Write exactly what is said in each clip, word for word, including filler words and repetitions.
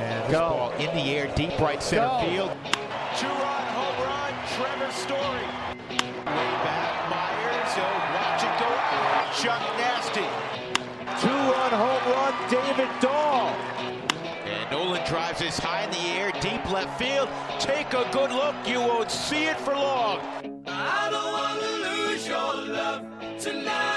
And this Go. ball in the air, deep right center Go. field. Two-run home run, Trevor Story. Way back, Myers, he'll watch it go out. Chuck Nasty. Two-run home run, David Dahl. And Nolan drives this high in the air, deep left field. Take a good look, you won't see it for long. I don't want to lose your love tonight.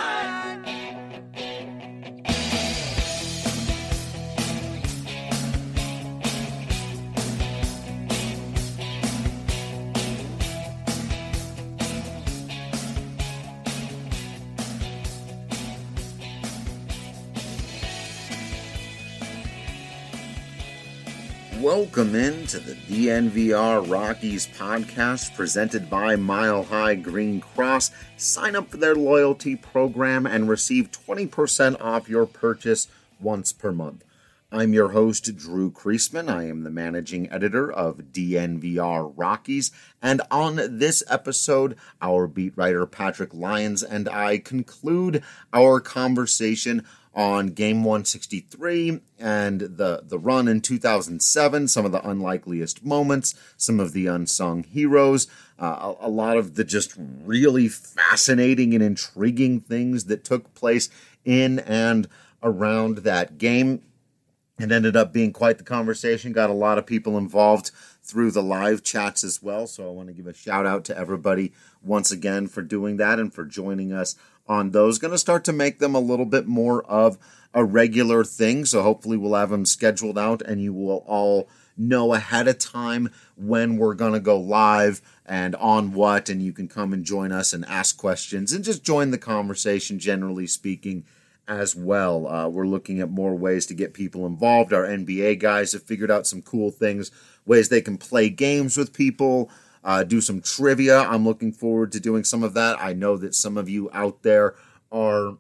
Welcome into the D N V R Rockies podcast presented by Mile High Green Cross. Sign up for their loyalty program and receive twenty percent off your purchase once per month. I'm your host, Drew Kreisman. I am the managing editor of D N V R Rockies. And on this episode, our beat writer Patrick Lyons and I conclude our conversation on Game one sixty-three and the, the run in two thousand seven, some of the unlikeliest moments, some of the unsung heroes, uh, a, a lot of the just really fascinating and intriguing things that took place in and around that game. It ended up being quite the conversation, got a lot of people involved through the live chats as well, so I want to give a shout out to everybody once again for doing that and for joining us on those. Going to start to make them a little bit more of a regular thing, so hopefully we'll have them scheduled out and you will all know ahead of time when we're going to go live and on what, and you can come and join us and ask questions and just join the conversation, generally speaking, as well. Uh, we're looking at more ways to get people involved. Our N B A guys have figured out some cool things, ways they can play games with people, Uh, do some trivia. I'm looking forward to doing some of that. I know that some of you out there are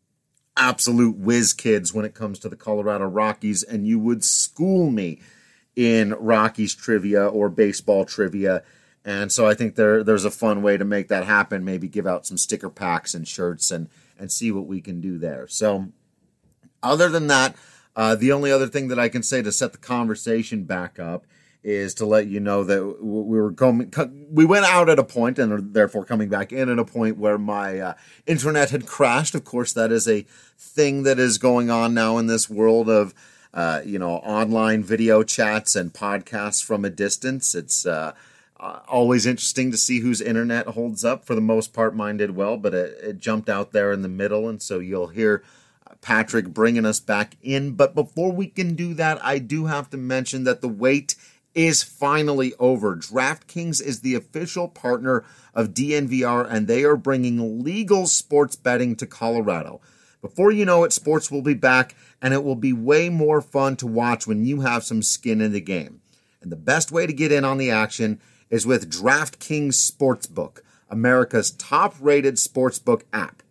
absolute whiz kids when it comes to the Colorado Rockies, and you would school me in Rockies trivia or baseball trivia. And so I think there there's a fun way to make that happen. Maybe give out some sticker packs and shirts and, and see what we can do there. So other than that, uh, the only other thing that I can say to set the conversation back up is to let you know that we were going, we went out at a point and are therefore coming back in at a point where my uh, internet had crashed. Of course, that is a thing that is going on now in this world of, uh, you know, online video chats and podcasts from a distance. It's uh, uh, always interesting to see whose internet holds up. For the most part, mine did well, but it, it jumped out there in the middle, and so you'll hear Patrick bringing us back in. But before we can do that, I do have to mention that the wait is finally over. DraftKings is the official partner of D N V R, and they are bringing legal sports betting to Colorado. Before you know it, sports will be back, and it will be way more fun to watch when you have some skin in the game. And the best way to get in on the action is with DraftKings Sportsbook, America's top-rated sportsbook app.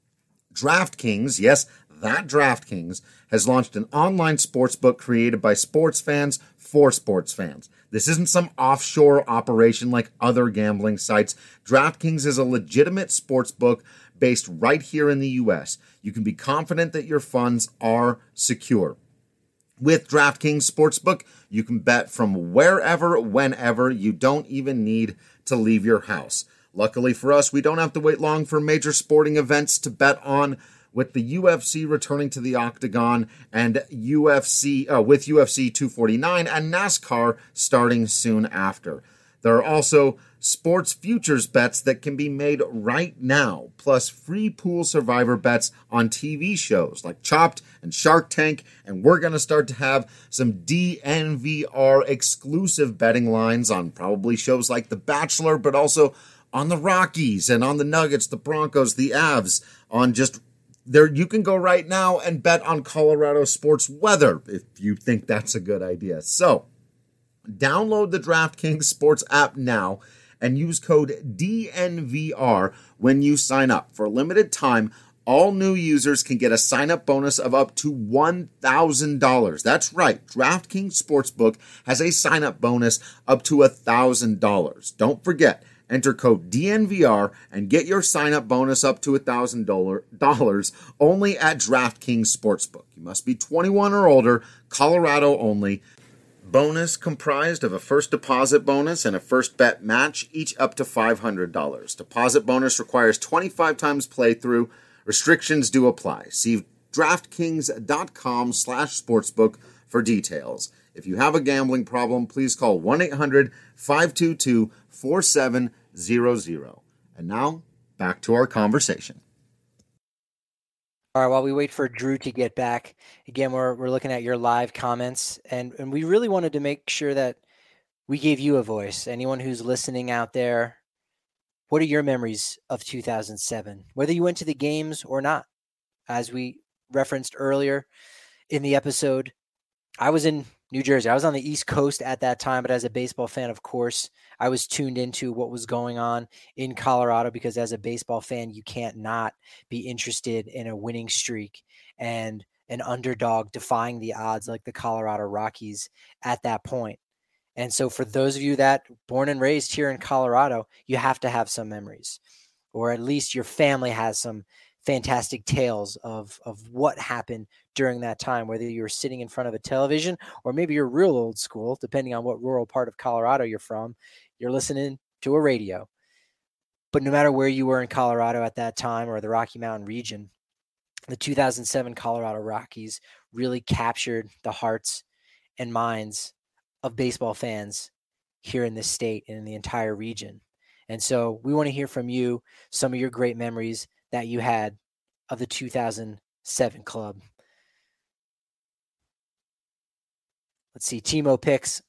DraftKings, yes, that DraftKings, has launched an online sportsbook created by sports fans for sports fans. This isn't some offshore operation like other gambling sites. DraftKings is a legitimate sportsbook based right here in the U S. You can be confident that your funds are secure. With DraftKings Sportsbook, you can bet from wherever, whenever. You don't even need to leave your house. Luckily for us, we don't have to wait long for major sporting events to bet on, with the U F C returning to the Octagon and U F C uh, with U F C two forty-nine and NASCAR starting soon after. There are also sports futures bets that can be made right now, plus free pool survivor bets on T V shows like Chopped and Shark Tank, and we're going to start to have some D N V R exclusive betting lines on probably shows like The Bachelor, but also on the Rockies and on the Nuggets, the Broncos, the Avs, on just there. You can go right now and bet on Colorado sports weather if you think that's a good idea. So download the DraftKings Sports app now and use code D N V R when you sign up. For a limited time, all new users can get a sign-up bonus of up to one thousand dollars. That's right. DraftKings Sportsbook has a sign-up bonus up to one thousand dollars. Don't forget, enter code D N V R and get your sign-up bonus up to one thousand dollars only at DraftKings Sportsbook. You must be twenty-one or older. Colorado only. Bonus comprised of a first deposit bonus and a first bet match, each up to five hundred dollars. Deposit bonus requires twenty-five times playthrough. Restrictions do apply. See DraftKings.com slash sportsbook for details. If you have a gambling problem, please call one eight hundred five two two four seven zero zero. And now, back to our conversation. All right, while we wait for Drew to get back, again, we're we're looking at your live comments, and, and we really wanted to make sure that we gave you a voice. Anyone who's listening out there, what are your memories of two thousand seven, whether you went to the games or not? As we referenced earlier in the episode, I was in New Jersey. I was on the East Coast at that time, but as a baseball fan, of course, I was tuned into what was going on in Colorado, because as a baseball fan, you can't not be interested in a winning streak and an underdog defying the odds like the Colorado Rockies at that point. And so for those of you that born and raised here in Colorado, you have to have some memories, or at least your family has some fantastic tales of, of what happened during that time, whether you were sitting in front of a television or maybe you're real old school, depending on what rural part of Colorado you're from, you're listening to a radio. But no matter where you were in Colorado at that time or the Rocky Mountain region, the two thousand seven Colorado Rockies really captured the hearts and minds of baseball fans here in this state and in the entire region. And so we want to hear from you some of your great memories that you had of the two thousand seven club. Let's see. Timo Picks,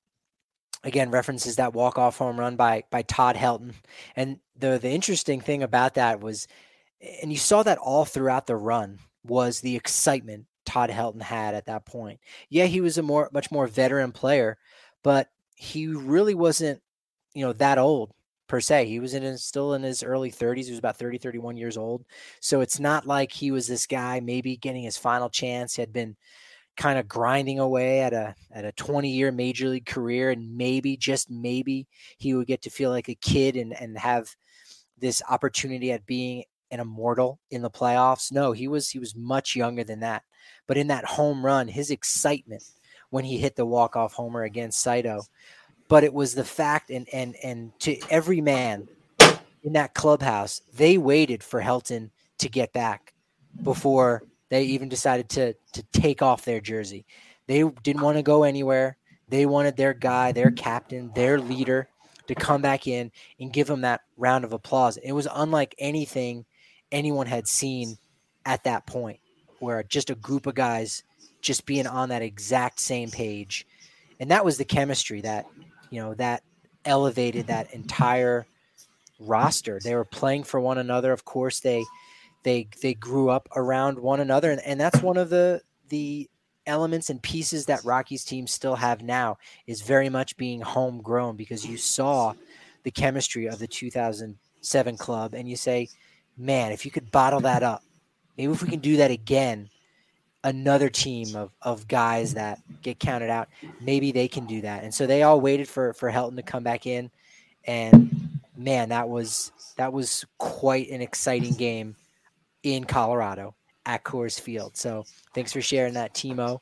again, references that walk-off home run by by Todd Helton. And the, the interesting thing about that was, and you saw that all throughout the run, was the excitement Todd Helton had at that point. Yeah, he was a more much more veteran player, but he really wasn't, you know, that old per se. He was in his, still in his early thirties. He was about thirty, thirty-one years old. So it's not like he was this guy maybe getting his final chance. He had been kind of grinding away at a at a twenty-year major league career, and maybe, just maybe, he would get to feel like a kid and, and have this opportunity at being an immortal in the playoffs. No, he was he was much younger than that. But in that home run, his excitement when he hit the walk-off homer against Saito, but it was the fact, and and and to every man in that clubhouse, they waited for Helton to get back before they even decided to to take off their jersey. They didn't want to go anywhere. They wanted their guy, their captain, their leader to come back in and give him that round of applause. It was unlike anything anyone had seen at that point, where just a group of guys just being on that exact same page. And that was the chemistry that, you know, that elevated that entire roster. They were playing for one another. Of course, they they they grew up around one another. And, and that's one of the the elements and pieces that Rockies teams still have now, is very much being homegrown, because you saw the chemistry of the two thousand seven club and you say, man, if you could bottle that up, maybe if we can do that again, another team of, of guys that get counted out, maybe they can do that. And so they all waited for, for Helton to come back in. And man, that was, that was quite an exciting game in Colorado at Coors Field. So thanks for sharing that, Timo.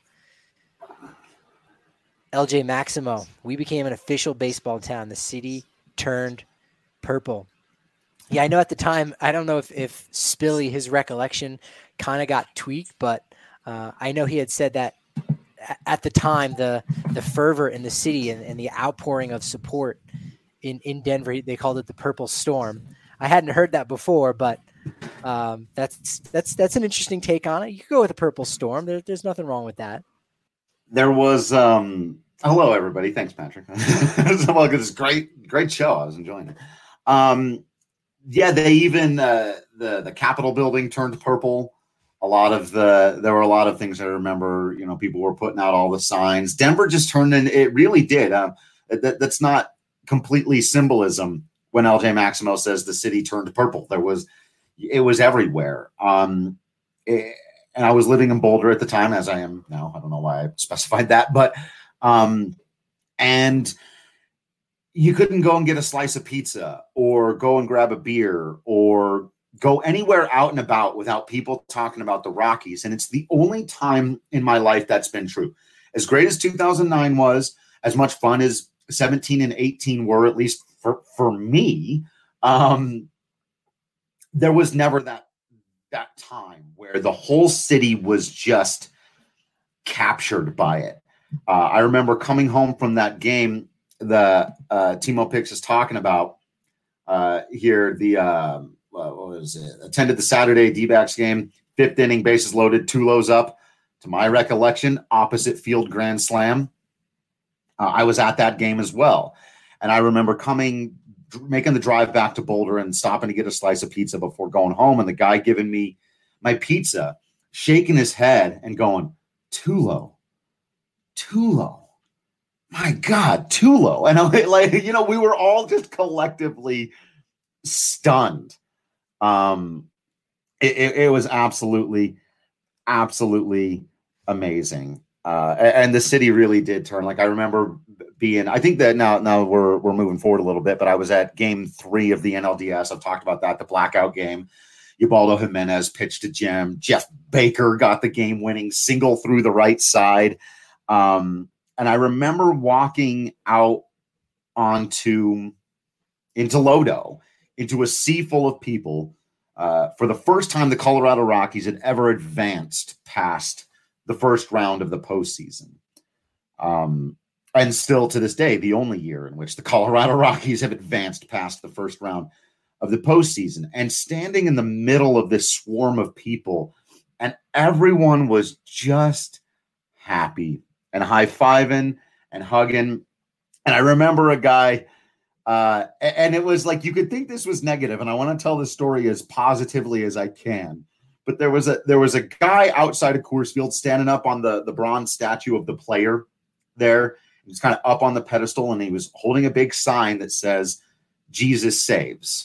L J Maximo, we became an official baseball town. The city turned purple. Yeah, I know at the time, I don't know if, if Spilly, his recollection kind of got tweaked, but uh, I know he had said that at the time, the the fervor in the city and, and the outpouring of support in, in Denver, they called it the Purple Storm. I hadn't heard that before, but um, that's that's that's an interesting take on it. You could go with a Purple Storm. There, there's nothing wrong with that. There was um, – hello, everybody. Thanks, Patrick. Well, it's great, great show. I was enjoying it. Um, yeah, they even uh, – the, the Capitol building turned purple. A lot of the, there were a lot of things I remember, you know, people were putting out all the signs. Denver just turned in, it really did. Um, that, that's not completely symbolism when L J Maximo says the city turned purple. There was, it was everywhere. Um, it, and I was living in Boulder at the time, as I am now. I don't know why I specified that, but, um, and you couldn't go and get a slice of pizza or go and grab a beer or go anywhere out and about without people talking about the Rockies. And it's the only time in my life that's been true. as great as two thousand nine was, as much fun as seventeen and eighteen were, at least for, for me, um, there was never that, that time where the whole city was just captured by it. Uh, I remember coming home from that game, the uh, Timo Pix is talking about uh, here, the, uh, what was it? Attended the Saturday D-backs game, fifth inning, bases loaded, two lows up. To my recollection, opposite field grand slam. Uh, I was at that game as well. And I remember coming, making the drive back to Boulder and stopping to get a slice of pizza before going home. And the guy giving me my pizza, shaking his head and going, too low, too low. My God, too low. And I like, you know, we were all just collectively stunned. Um, it, it, it was absolutely, absolutely amazing. Uh, and the city really did turn. Like I remember being, I think that now, now we're, we're moving forward a little bit, but I was at game three of the N L D S. I've talked about that, the blackout game. Ubaldo Jimenez pitched to Jim. Jeff Baker got the game winning single through the right side. Um, and I remember walking out onto, into Lodo, into a sea full of people. Uh, for the first time, the Colorado Rockies had ever advanced past the first round of the postseason. Um, and still to this day, the only year in which the Colorado Rockies have advanced past the first round of the postseason. And standing in the middle of this swarm of people, and everyone was just happy and high-fiving and hugging. And I remember a guy, uh, and it was like, you could think this was negative, and I want to tell this story as positively as I can. But there was a there was a guy outside of Coors Field standing up on the, the bronze statue of the player there. He was kind of up on the pedestal, and he was holding a big sign that says, Jesus saves.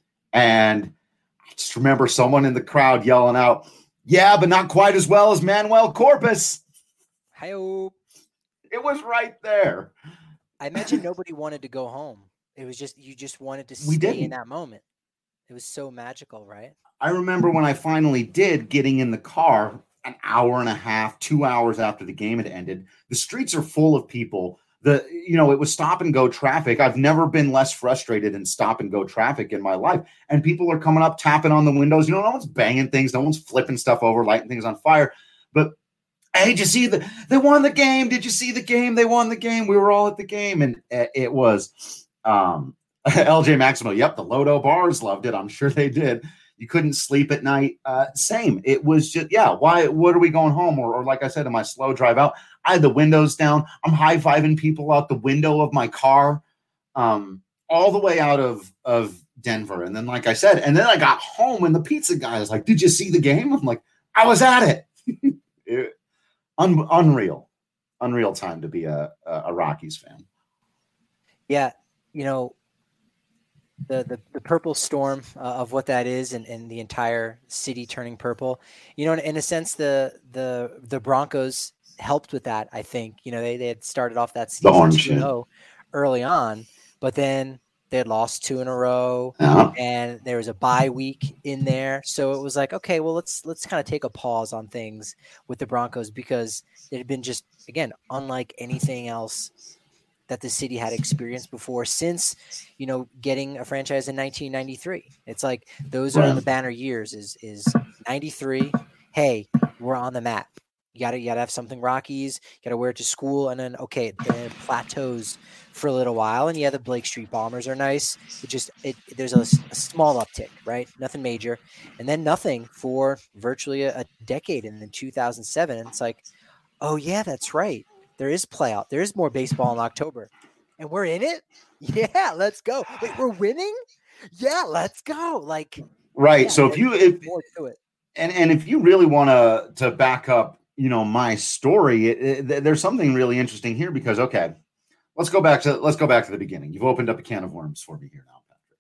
And I just remember someone in the crowd yelling out, yeah, but not quite as well as Manuel Corpus. Hi-oh. It was right there. I imagine nobody wanted to go home. It was just, you just wanted to We stay didn't. in that moment. It was so magical, right? I remember when I finally did, getting in the car an hour and a half, two hours after the game had ended. The streets are full of people. The, you know, it was stop and go traffic. I've never been less frustrated in stop and go traffic in my life. And people are coming up, tapping on the windows. You know, no one's banging things. No one's flipping stuff over, lighting things on fire. But, hey, did you see the, they won the game. Did you see the game? They won the game. We were all at the game. And it was um, L J Maximo. Yep, the Lodo bars loved it. I'm sure they did. You couldn't sleep at night. Uh, same. It was just, yeah, why, what are we going home? Or, or like I said, in my slow drive out, I had the windows down. I'm high-fiving people out the window of my car, um, all the way out of, of Denver. And then, like I said, and then I got home and the pizza guy was like, did you see the game? I'm like, I was at it. it un, unreal, unreal time to be a, a Rockies fan. Yeah. You know, the, the, the purple storm uh, of what that is, and, and the entire city turning purple, you know, in, in a sense, the, the, the Broncos helped with that. I think, you know, they, they had started off that season two and oh early on, but then they had lost two in a row, uh-huh. and there was a bye week in there. So it was like, okay, well, let's, let's kind of take a pause on things with the Broncos, because it had been just, again, unlike anything else that the city had experienced before since, you know, getting a franchise in nineteen ninety-three. It's like, those are the banner years is, is ninety-three. Hey, we're on the map. You gotta, you gotta have something Rockies, you gotta wear it to school. And then, okay, then it plateaus for a little while. And yeah, the Blake Street Bombers are nice. It just, it, there's a, a small uptick, right? Nothing major. And then nothing for virtually a, a decade. And then two thousand seven, and it's like, oh yeah, that's right. There is playoff. There is more baseball in October, and we're in it. Yeah, let's go. Wait, we're winning. Yeah, let's go. Like, right. Yeah, so if you, if, more to it. and, and if you really want to, to back up, you know, my story, it, it, there's something really interesting here, because, okay, let's go back to, let's go back to the beginning. You've opened up a can of worms for me here now, Patrick.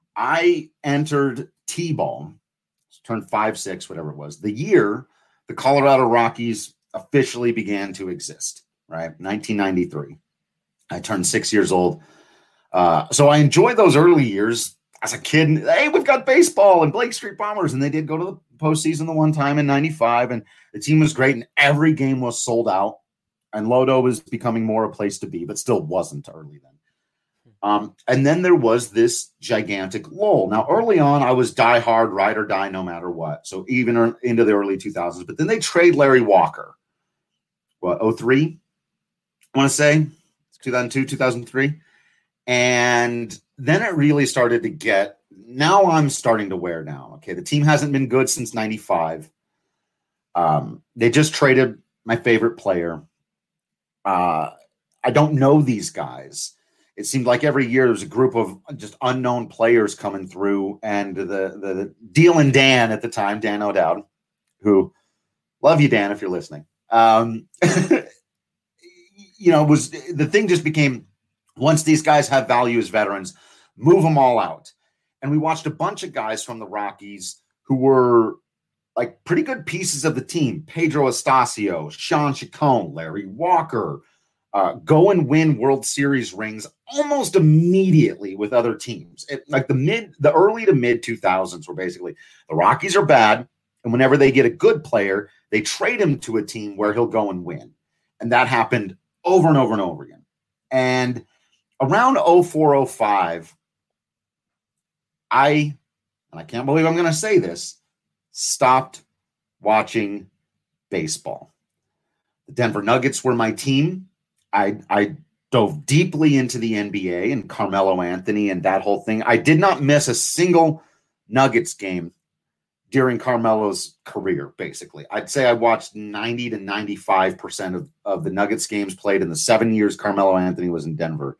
I entered T-ball, turned five, six, whatever it was, the year the Colorado Rockies officially began to exist. Right, nineteen ninety-three. I turned six years old. Uh, so I enjoyed those early years as a kid. And, hey, we've got baseball and Blake Street Bombers, and they did go to the postseason the one time in ninety-five, and the team was great, and every game was sold out. and Lodo was becoming more a place to be, but still wasn't early then. Um, and then there was this gigantic lull. Now, early on, I was die hard, ride or die, no matter what. So even into the early two thousands. But then they trade Larry Walker. What, oh three? I want to say two thousand two, two thousand three. And then it really started to get, now I'm starting to wear down. Okay, the team hasn't been good since ninety-five. Um, they just traded my favorite player. Uh, I don't know these guys. It seemed like every year there was a group of just unknown players coming through, and the the, the Deal and Dan at the time, Dan O'Dowd, who love you, Dan, if you're listening. Um, you know, was the thing just became, once these guys have value as veterans, move them all out. And we watched a bunch of guys from the Rockies who were like pretty good pieces of the team. Pedro Estacio, Sean Chacon, Larry Walker, uh, go and win World Series rings almost immediately with other teams. It, like the mid, the early to mid two thousands were basically the Rockies are bad. And whenever they get a good player, they trade him to a team where he'll go and win. And that happened over and over and over again. And around oh four, oh five, I, and I can't believe I'm going to say this, stopped watching baseball. The Denver Nuggets were my team. I, I dove deeply into the N B A and Carmelo Anthony and that whole thing. I did not miss a single Nuggets game during Carmelo's career, basically. I'd say I watched ninety to ninety-five percent of, of the Nuggets games played in the seven years Carmelo Anthony was in Denver.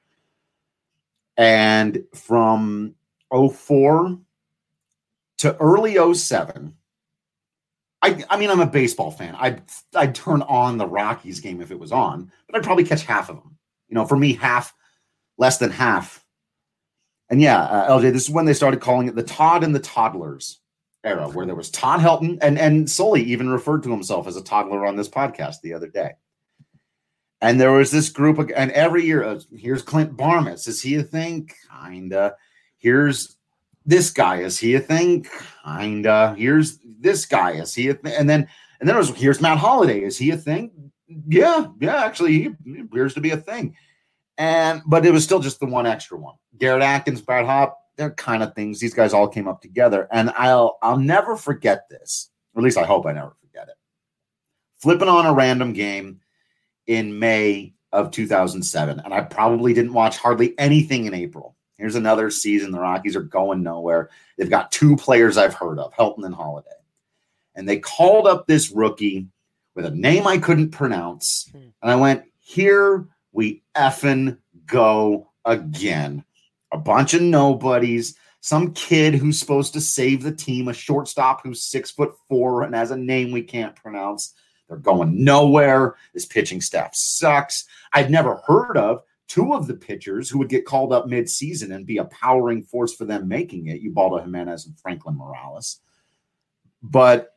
And from oh four to early oh seven, I, I mean, I'm a baseball fan. I'd, I'd turn on the Rockies game if it was on, but I'd probably catch half of them. You know, for me, half, less than half. And yeah, uh, L J, this is when they started calling it the Todd and the Toddlers era, where there was Todd Helton, and, and Sully even referred to himself as a toddler on this podcast the other day. And there was this group of, and every year, uh, here's Clint Barmas. Is he a thing? Kinda. Here's this guy. Is he a thing? Kinda. Here's this guy. Is he a thing? And then, and then it was, here's Matt Holliday. Is he a thing? Yeah. Yeah. Actually, he, he appears to be a thing. And, but it was still just the one extra one. Garrett Atkins, Brad Hopp, they're kind of things. These guys all came up together. And I'll, I'll never forget this. Or at least I hope I never forget it. Flipping on a random game in May of two thousand seven. And I probably didn't watch hardly anything in April. Here's another season. The Rockies are going nowhere. They've got two players I've heard of, Helton and Holliday. And they called up this rookie with a name I couldn't pronounce. Hmm. And I went, here we effing go again. A bunch of nobodies, some kid who's supposed to save the team, a shortstop who's six foot four and has a name we can't pronounce. They're going nowhere. This pitching staff sucks. I'd never heard of two of the pitchers who would get called up mid-season and be a powering force for them making it, Ubaldo Jimenez and Franklin Morales. But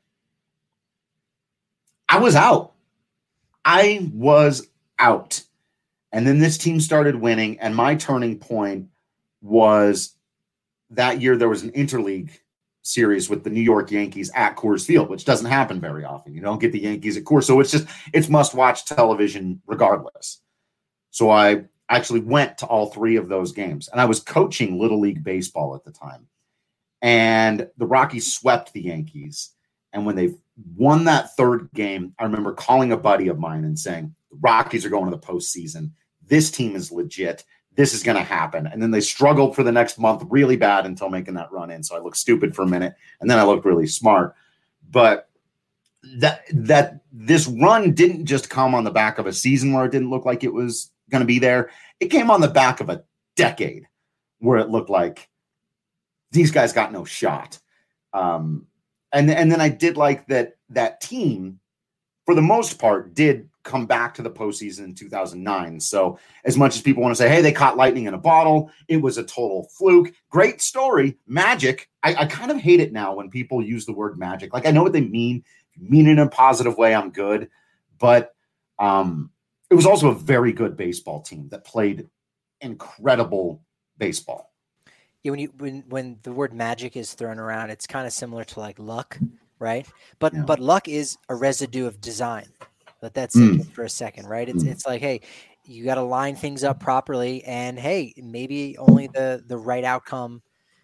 I was out. I was out. And then this team started winning, and my turning point was that year there was an interleague series with the New York Yankees at Coors Field, which doesn't happen very often. You don't get the Yankees at Coors. So it's just, it's must-watch television regardless. So I actually went to all three of those games, and I was coaching Little League Baseball at the time. And the Rockies swept the Yankees. And when they won that third game, I remember calling a buddy of mine and saying, the Rockies are going to the postseason. This team is legit. This is going to happen. And then they struggled for the next month really bad until making that run in. So I looked stupid for a minute, and then I looked really smart. But that that this run didn't just come on the back of a season where it didn't look like it was going to be there. It came on the back of a decade where it looked like these guys got no shot. Um, and, and then I did like that that team, for the most part, did come back to the postseason in two thousand nine. So as much as people want to say, hey, they caught lightning in a bottle, it was a total fluke. Great story. Magic. I, I kind of hate it now when people use the word magic. Like, I know what they mean. If you mean it in a positive way, I'm good. But um, it was also a very good baseball team that played incredible baseball. Yeah, when you when when the word magic is thrown around, it's kind of similar to like luck, right? But Yeah. but luck is a residue of design. Let that sink Mm. in for a second, right? It's Mm. it's like, hey, you got to line things up properly, and hey, maybe only the the right outcome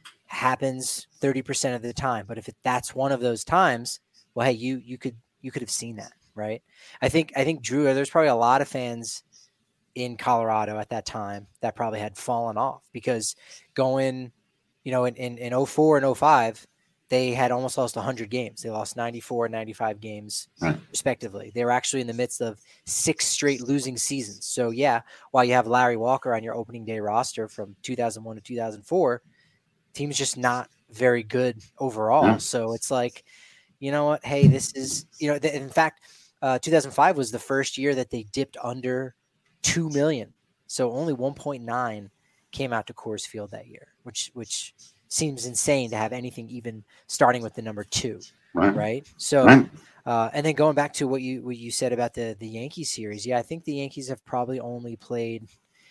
happens thirty percent of the time. But if it, that's one of those times, well, hey, you you could you could have seen that, right? I think I think Drew, there's probably a lot of fans in Colorado at that time that probably had fallen off because going, you know, in in, in oh four and oh five, they had almost lost one hundred games. They lost ninety-four and ninety-five games Right. respectively. They were actually in the midst of six straight losing seasons. So yeah, while you have Larry Walker on your opening day roster from two thousand one to two thousand four, team's just not very good overall. Yeah. So it's like, you know what? Hey, this is, you know, th- in fact, uh, two thousand five was the first year that they dipped under two million. So only one point nine came out to Coors Field that year, which, which seems insane to have anything even starting with the number two. Right. Right. So, Right. uh, and then going back to what you, what you said about the, the Yankees series. Yeah. I think the Yankees have probably only played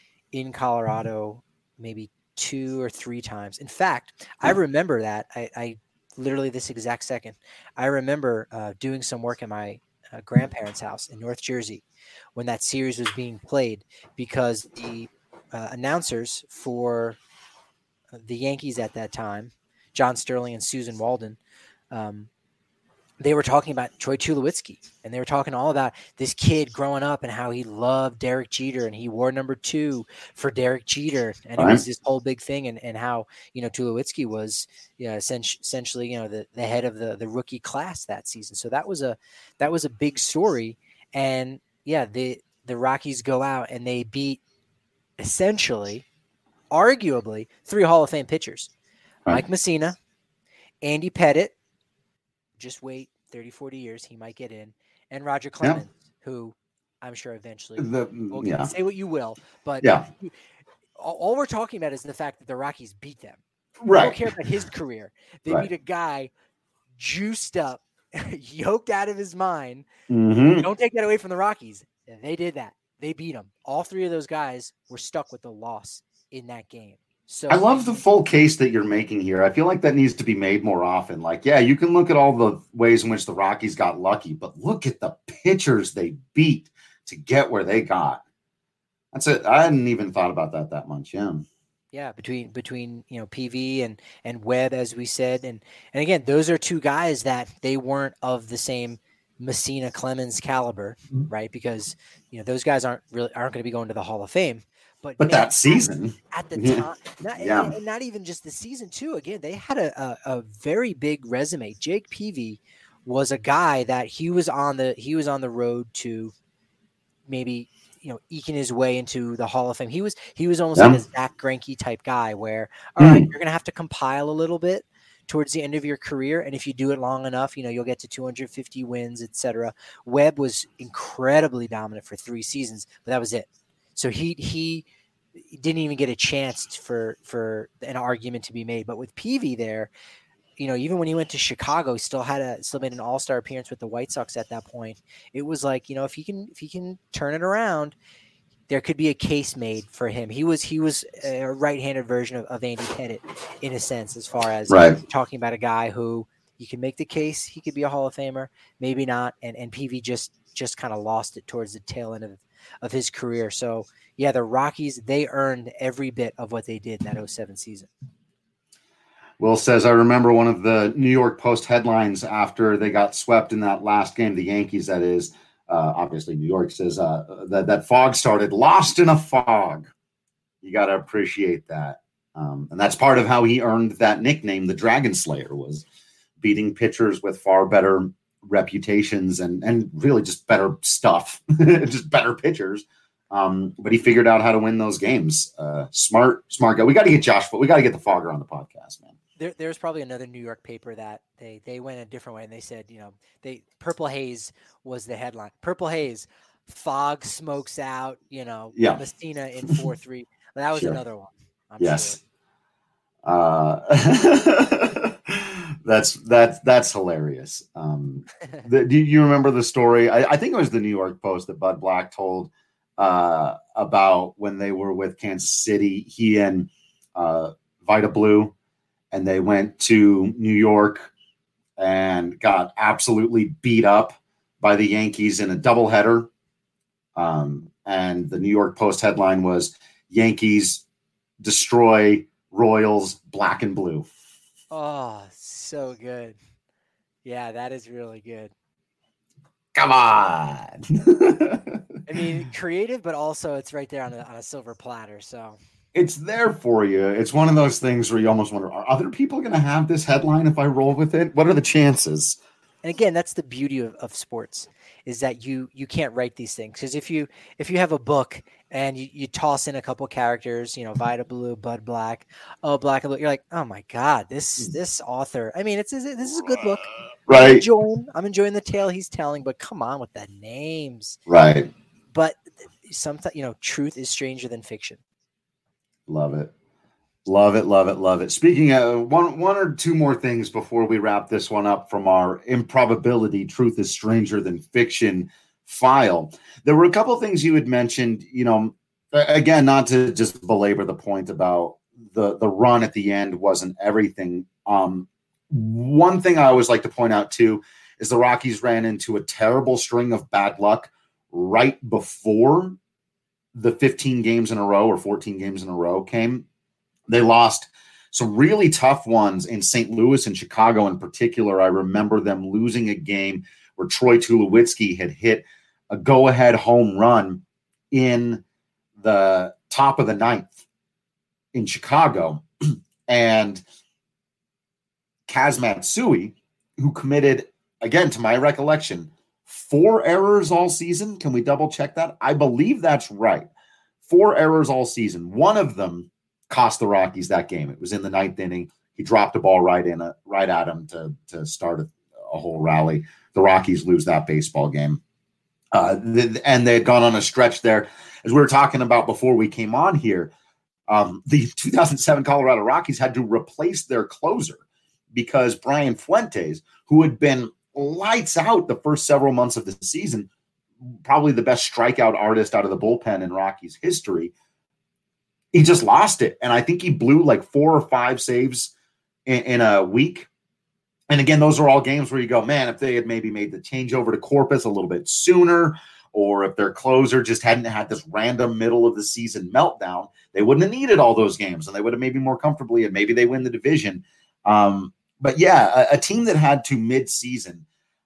in Colorado maybe two or three times. In fact, I remember that I, I literally this exact second, I remember uh, doing some work at my uh, grandparents' house in North Jersey when that series was being played, because the uh, announcers for the Yankees at that time, John Sterling and Susan Walden, um, they were talking about Troy Tulowitzki, and they were talking all about this kid growing up and how he loved Derek Jeter and he wore number two for Derek Jeter. And Right. it was this whole big thing. And, and how, you know, Tulowitzki was, you know, essentially, you know, the, the head of the, the rookie class that season. So that was a, that was a big story. And yeah, the, the Rockies go out and they beat essentially, arguably three Hall of Fame pitchers, Right. Mike Messina, Andy Pettit, just wait thirty, forty years, he might get in. And Roger Clemens, yeah. who I'm sure eventually The, will yeah. say what you will, but Yeah. all, all we're talking about is the fact that the Rockies beat them. Right. We don't care about his career. They Right. beat a guy juiced up, yoked out of his mind. Mm-hmm. Don't take that away from the Rockies. They did that. They beat them. All three of those guys were stuck with the loss in that game. So I love the full case that you're making here. I feel like that needs to be made more often. Like, yeah, you can look at all the ways in which the Rockies got lucky, but look at the pitchers they beat to get where they got. That's it. I hadn't even thought about that that much. Yeah. Yeah. Between, between, you know, P V and, and Webb, as we said. And, and again, those are two guys that they weren't of the same Messina Clemens caliber, right? Because, you know, those guys aren't really, aren't going to be going to the Hall of Fame. But, but man, that season at the yeah. time, not, yeah. and, and not even just the season two, again, they had a, a, a very big resume. Jake Peavy was a guy that he was on the, he was on the road to maybe, you know, eking his way into the Hall of Fame. He was, he was almost yeah. like a Zach Greinke type guy where, all mm. right, you're going to have to compile a little bit towards the end of your career. And if you do it long enough, you know, you'll get to two hundred fifty wins, et cetera. Webb was incredibly dominant for three seasons, but that was it. So he he didn't even get a chance for for an argument to be made. But with Peavy there, you know, even when he went to Chicago, he still had a still made an all-star appearance with the White Sox at that point. It was like, you know, if he can if he can turn it around, there could be a case made for him. He was he was a right-handed version of, of Andy Pettit in a sense, as far as right. talking about a guy who you can make the case he could be a Hall of Famer, maybe not. And and Peavy just just kind of lost it towards the tail end of of his career. So yeah, the Rockies, they earned every bit of what they did in that oh seven season. Will says, I remember one of the New York Post headlines after they got swept in that last game, the Yankees, that is, uh, obviously New York, says uh, that, that fog started, lost in a fog. You got to appreciate that. Um, and that's part of how he earned that nickname, the Dragon Slayer, was beating pitchers with far better reputations and and really just better stuff, just better pitchers. Um, but he figured out how to win those games. Uh, smart, smart guy. We got to get Josh, but we got to get the Fogger on the podcast, man. There, there's probably another New York paper that they they went a different way, and they said, you know, they Purple Haze was the headline. Purple Haze, fog smokes out, you know, yeah. Messina in four three. That was sure. another one. I'm yes. Sure. Uh, that's that's that's hilarious. Um, the, do you remember the story? I, I think it was the New York Post that Bud Black told uh, about when they were with Kansas City. He and uh, Vita Blue, and they went to New York and got absolutely beat up by the Yankees in a doubleheader. Um, and the New York Post headline was Yankees destroy Royals black and blue. Oh, so good. Yeah, that is really good. Come on. I mean, creative, but also it's right there on a, on a silver platter. So it's there for you. It's one of those things where you almost wonder, are other people going to have this headline if I roll with it? What are the chances? And again, that's the beauty of, of sports, is that you you can't write these things. Because if you if you have a book and you, you toss in a couple characters, you know, Vida Blue, Bud Black, oh Black and Blue, you're like, oh my God, this this author. I mean, it's this is a good book. Right. I'm enjoying, I'm enjoying the tale he's telling, but come on with the names. Right. But sometimes, you know, truth is stranger than fiction. Love it. Love it, love it, love it. Speaking of one, one or two more things before we wrap this one up from our improbability, truth is stranger than fiction file. There were a couple of things you had mentioned, you know, again, not to just belabor the point about the, the run at the end wasn't everything. Um, one thing I always like to point out too, is the Rockies ran into a terrible string of bad luck right before the fifteen games in a row or fourteen games in a row came. They lost some really tough ones in Saint Louis and Chicago in particular. I remember them losing a game where Troy Tulowitzki had hit a go-ahead home run in the top of the ninth in Chicago. And Kaz Matsui, who committed, again, to my recollection, four errors all season. Can we double check that? I believe that's right. Four errors all season. One of them cost the Rockies that game. It was in the ninth inning. He dropped a ball right in a, right at him to, to start a, a whole rally. The Rockies lose that baseball game. Uh, the, and they had gone on a stretch there. As we were talking about before we came on here, um, the two thousand seven Colorado Rockies had to replace their closer because Brian Fuentes, who had been lights out the first several months of the season, probably the best strikeout artist out of the bullpen in Rockies history, he just lost it. And I think he blew like four or five saves in, in a week. And again, those are all games where you go, man, if they had maybe made the change over to Corpus a little bit sooner, or if their closer just hadn't had this random middle of the season meltdown, they wouldn't have needed all those games and they would have maybe more comfortably, and maybe they win the division. Um, but yeah, a, a team that had to mid-season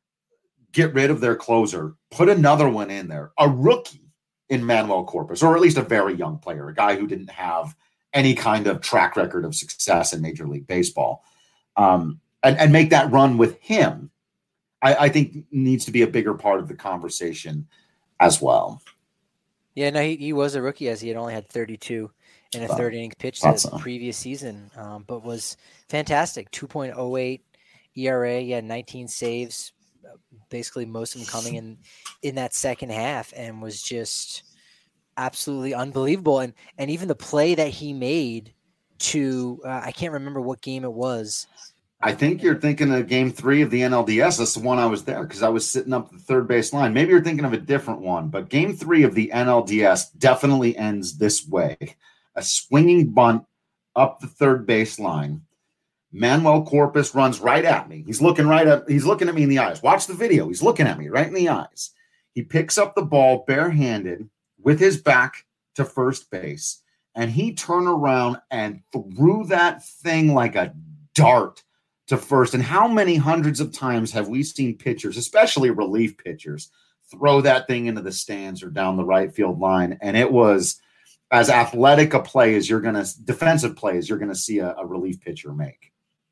get rid of their closer, put another one in there, a rookie in Manuel Corpus, or at least a very young player, a guy who didn't have any kind of track record of success in Major League Baseball, um, and, and make that run with him, I, I think needs to be a bigger part of the conversation as well. Yeah, no, he, he was a rookie, as he had only had thirty-two in a Uh, third inning pitch thought the so. previous season, um, but was fantastic. two point oh eight E R A, yeah, nineteen saves, basically most of them coming in in that second half, and was just absolutely unbelievable. And and even the play that he made to uh, I can't remember what game it was. I think you're thinking of game three of the N L D S. That's the one I was there because I was sitting up the third base line. Maybe you're thinking of a different one, but game three of the N L D S definitely ends this way. A swinging bunt up the third base line. Manuel Corpus runs right at me. He's looking right at, he's looking at me in the eyes. Watch the video. He's looking at me right in the eyes. He picks up the ball barehanded with his back to first base, and he turned around and threw that thing like a dart to first. And how many hundreds of times have we seen pitchers, especially relief pitchers, throw that thing into the stands or down the right field line? And it was as athletic a play as you're going to, defensive play as you're going to see a, a relief pitcher make.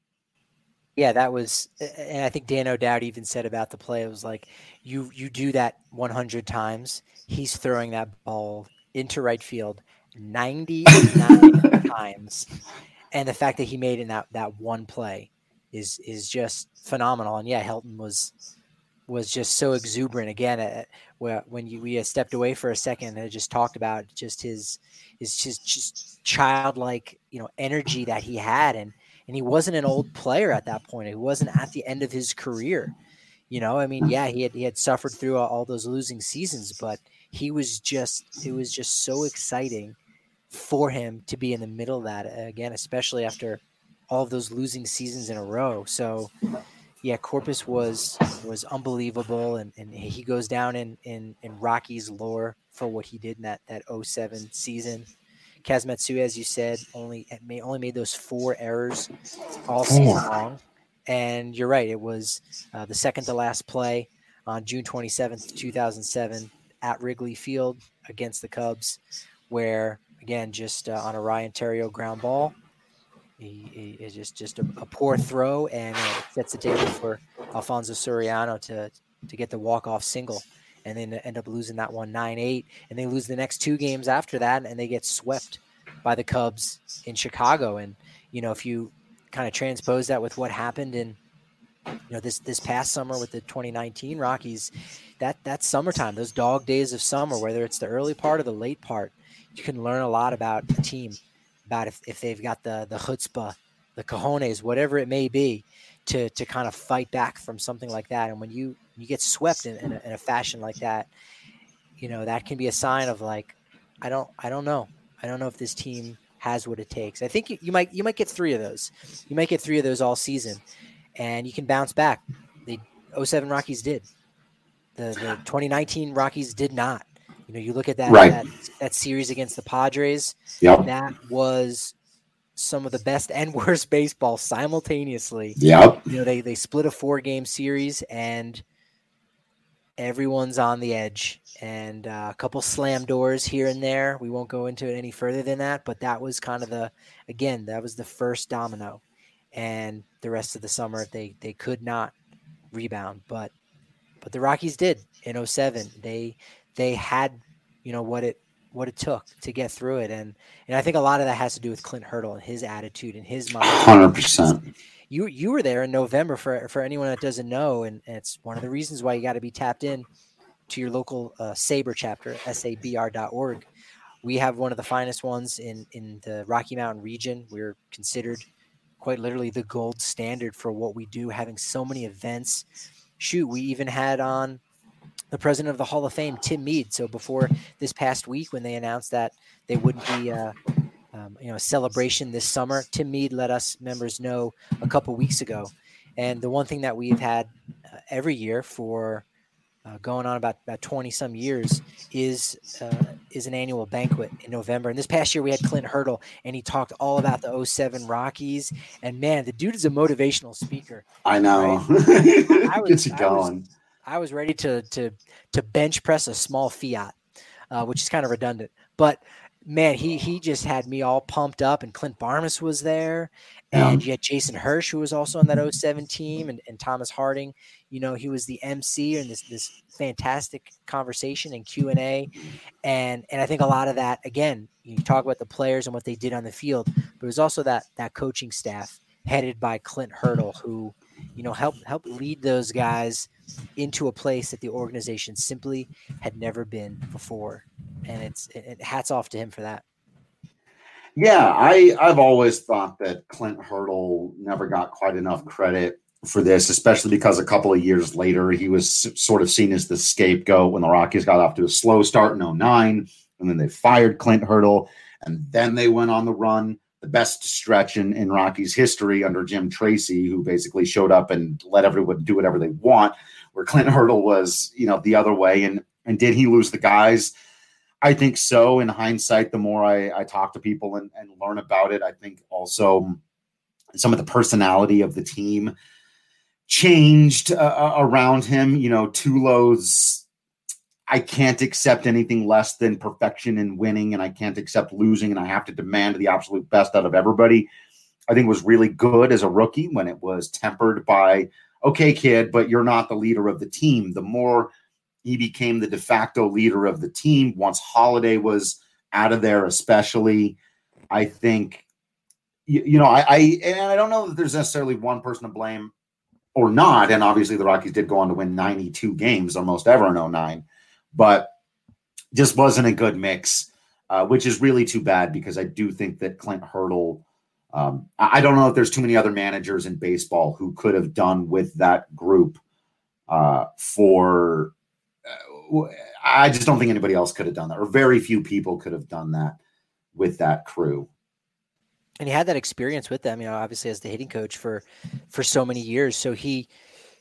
Yeah, that was, and I think Dan O'Dowd even said about the play, it was like, you you do that one hundred times, he's throwing that ball into right field ninety-nine times. And the fact that he made in that, that one play is is just phenomenal. And yeah, Helton was was just so exuberant again. Uh, where when you we stepped away for a second and just talked about just his his just just childlike, you know, energy that he had, and and he wasn't an old player at that point. He wasn't at the end of his career. You know, I mean, yeah, he had he had suffered through all, all those losing seasons, but he was just it was just so exciting for him to be in the middle of that again, especially after all of those losing seasons in a row. So yeah, Corpus was was unbelievable, and, and he goes down in, in in Rockies lore for what he did in that that oh seven season. Kaz Matsui, as you said, only may only made those four errors all Four. season long, and you're right. It was uh, the second to last play on June twenty-seventh, two thousand seven, at Wrigley Field against the Cubs, where again just uh, on a Ryan Theriot ground ball. He, he is just, just a, a poor throw, and uh, it sets the table for Alfonso Soriano to to get the walk-off single, and then end up losing that one nine eight, and they lose the next two games after that, and they get swept by the Cubs in Chicago. And, you know, if you kind of transpose that with what happened in, you know, this this past summer with the twenty nineteen Rockies, that that summertime, those dog days of summer, whether it's the early part or the late part, you can learn a lot about the team. About if, if they've got the the chutzpah, the cojones, whatever it may be, to to kind of fight back from something like that. And when you you get swept in, in, a, in a fashion like that, you know, that can be a sign of like, I don't I don't know. I don't know if this team has what it takes. I think you, you might you might get three of those. You might get three of those all season, and you can bounce back. The oh seven Rockies did. The the twenty nineteen Rockies did not. You know, you look at that, right. that that series against the Padres. Yep. That was some of the best and worst baseball simultaneously. Yep. You know, they they split a four game series, and everyone's on the edge. And uh, a couple slam doors here and there. We won't go into it any further than that, but that was kind of the again that was the first domino. And the rest of the summer, they they could not rebound, but but the Rockies did in oh seven. They They had, you know, what it what it took to get through it, and and I think a lot of that has to do with Clint Hurdle and his attitude and his mind. one hundred percent. You you were there in November for for anyone that doesn't know, and, and it's one of the reasons why you got to be tapped in to your local uh, SABR chapter, S A B R dot org. We have one of the finest ones in in the Rocky Mountain region. We're considered quite literally the gold standard for what we do, having so many events. Shoot, we even had on the president of the Hall of Fame, Tim Mead. So before this past week, when they announced that they wouldn't be, uh, um, you know, a celebration this summer, Tim Mead let us members know a couple weeks ago. And the one thing that we've had uh, every year for uh, going on about about twenty some years is uh, is an annual banquet in November. And this past year we had Clint Hurdle, and he talked all about the oh seven Rockies. And man, the dude is a motivational speaker. I know. Right? I was, Gets you I going. was, I was ready to to to bench press a small Fiat, uh, which is kind of redundant. But man, he he just had me all pumped up. And Clint Barmas was there, and Yeah. you had Jason Hirsch, who was also on that oh seven team, and, and Thomas Harding. You know, he was the M C in this this fantastic conversation and Q and A, and and I think a lot of that, again, you talk about the players and what they did on the field, but it was also that that coaching staff headed by Clint Hurdle, who, you know, helped help lead those guys into a place that the organization simply had never been before. And it's it, it, hats off to him for that. Yeah, I, I've always thought that Clint Hurdle never got quite enough credit for this, especially because a couple of years later, he was sort of seen as the scapegoat when the Rockies got off to a slow start in oh nine, and then they fired Clint Hurdle, and then they went on the run, the best stretch in, in Rockies history under Jim Tracy, who basically showed up and let everyone do whatever they want, where Clint Hurdle was, you know, the other way. And, and did he lose the guys? I think so. In hindsight, the more I, I talk to people and, and learn about it, I think also some of the personality of the team changed uh, around him. You know, Tulo's, I can't accept anything less than perfection in winning, and I can't accept losing, and I have to demand the absolute best out of everybody. I think was really good as a rookie when it was tempered by, okay, kid, but you're not the leader of the team. The more he became the de facto leader of the team once Holiday was out of there, especially, I think, you, you know, I, I, and I don't know that there's necessarily one person to blame or not. And obviously the Rockies did go on to win ninety-two games, almost ever in oh nine, but just wasn't a good mix, uh, which is really too bad, because I do think that Clint Hurdle, um, I don't know if there's too many other managers in baseball who could have done with that group uh, for, uh, I just don't think anybody else could have done that, or very few people could have done that with that crew. And he had that experience with them, you know, obviously as the hitting coach for, for so many years. So he,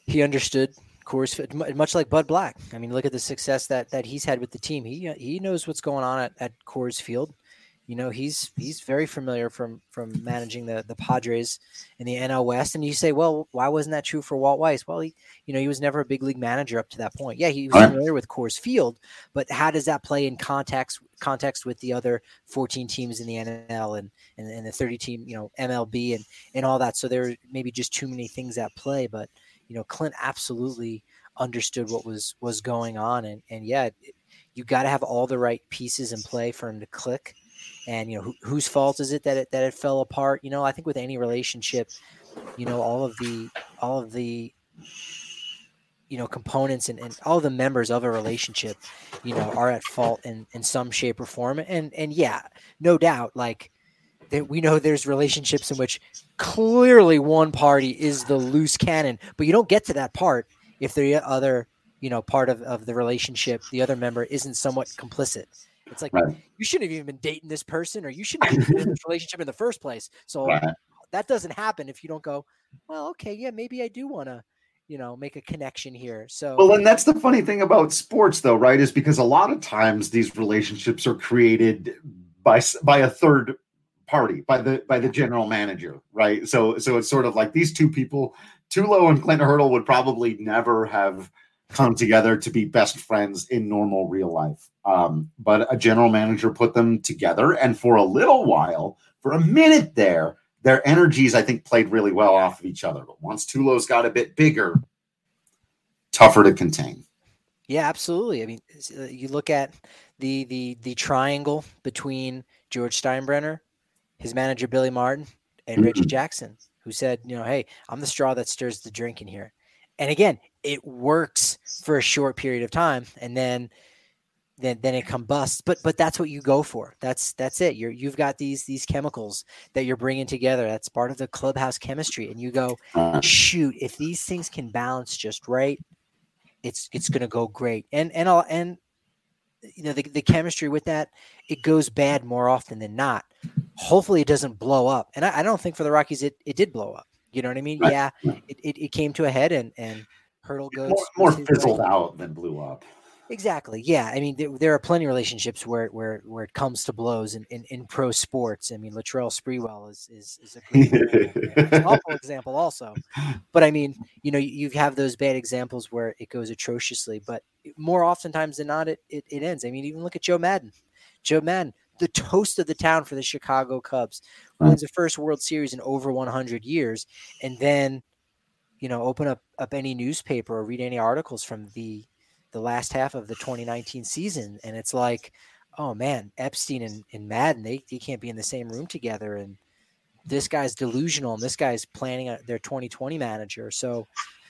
he understood Coors Field, much like Bud Black. I mean, look at the success that that he's had with the team. He he knows what's going on at, at Coors Field. You know, he's he's very familiar from from managing the the Padres in the N L West. And you say, well, why wasn't that true for Walt Weiss? Well, he you know he was never a big league manager up to that point. Yeah, he was familiar with Coors Field, but how does that play in context context with the other fourteen teams in the N L and and, and the thirty team, you know, M L B and and all that? So there are maybe just too many things at play, but you know, Clint absolutely understood what was was going on, and and yeah, it, you got to have all the right pieces in play for him to click. And you know, who, whose fault is it that it that it fell apart? You know, I think with any relationship, you know, all of the all of the you know components and, and all the members of a relationship, you know, are at fault in in some shape or form. And and yeah, no doubt, like that we know there's relationships in which clearly one party is the loose cannon, but you don't get to that part if the other, you know, part of, of the relationship, the other member isn't somewhat complicit. It's like, right. You shouldn't have even been dating this person, or you shouldn't have been in this relationship in the first place. So right. That doesn't happen if you don't go, well, okay, yeah, maybe I do want to, you know, make a connection here. So, well, and that's the funny thing about sports though, right? Is because a lot of times these relationships are created by, by a third party, by the, by the general manager. Right. So, so it's sort of like these two people, Tulo and Clint Hurdle would probably never have come together to be best friends in normal real life. Um, but a general manager put them together. And for a little while, for a minute there, their energies, I think, played really well off of each other. But once Tulo's got a bit bigger, tougher to contain. Yeah, absolutely. I mean, you look at the the the triangle between George Steinbrenner, his manager, Billy Martin, and mm-hmm. Reggie Jackson, who said, you know, hey, I'm the straw that stirs the drink in here. And again, it works for a short period of time, and then, then, then it combusts. But, but that's what you go for. That's, that's it. You're, you've got these, these chemicals that you're bringing together. That's part of the clubhouse chemistry. And you go, shoot, if these things can balance just right, it's, it's going to go great. And, and I'll, and, you know, the, the chemistry with that, it goes bad more often than not. Hopefully it doesn't blow up. And I, I don't think for the Rockies, it, it did blow up. You know what I mean? Right. Yeah, it, it, it came to a head, and, and Hurdle goes more, more fizzled way. out than blew up. Exactly. Yeah. I mean, there, there are plenty of relationships where where where it comes to blows in, in, in pro sports. I mean, Latrell Sprewell is is, is a great it's an awful example also. But I mean, you know, you, you have those bad examples where it goes atrociously, but more oftentimes than not, it, it it ends. I mean, even look at Joe Madden. Joe Madden, the toast of the town for the Chicago Cubs, wins the first World Series in over one hundred years, and then, you know, open up, up any newspaper or read any articles from the the last half of the twenty nineteen season, and it's like, oh man, Epstein and, and Madden, they, they can't be in the same room together, and this guy's delusional, and this guy's planning a, their twenty twenty manager. So,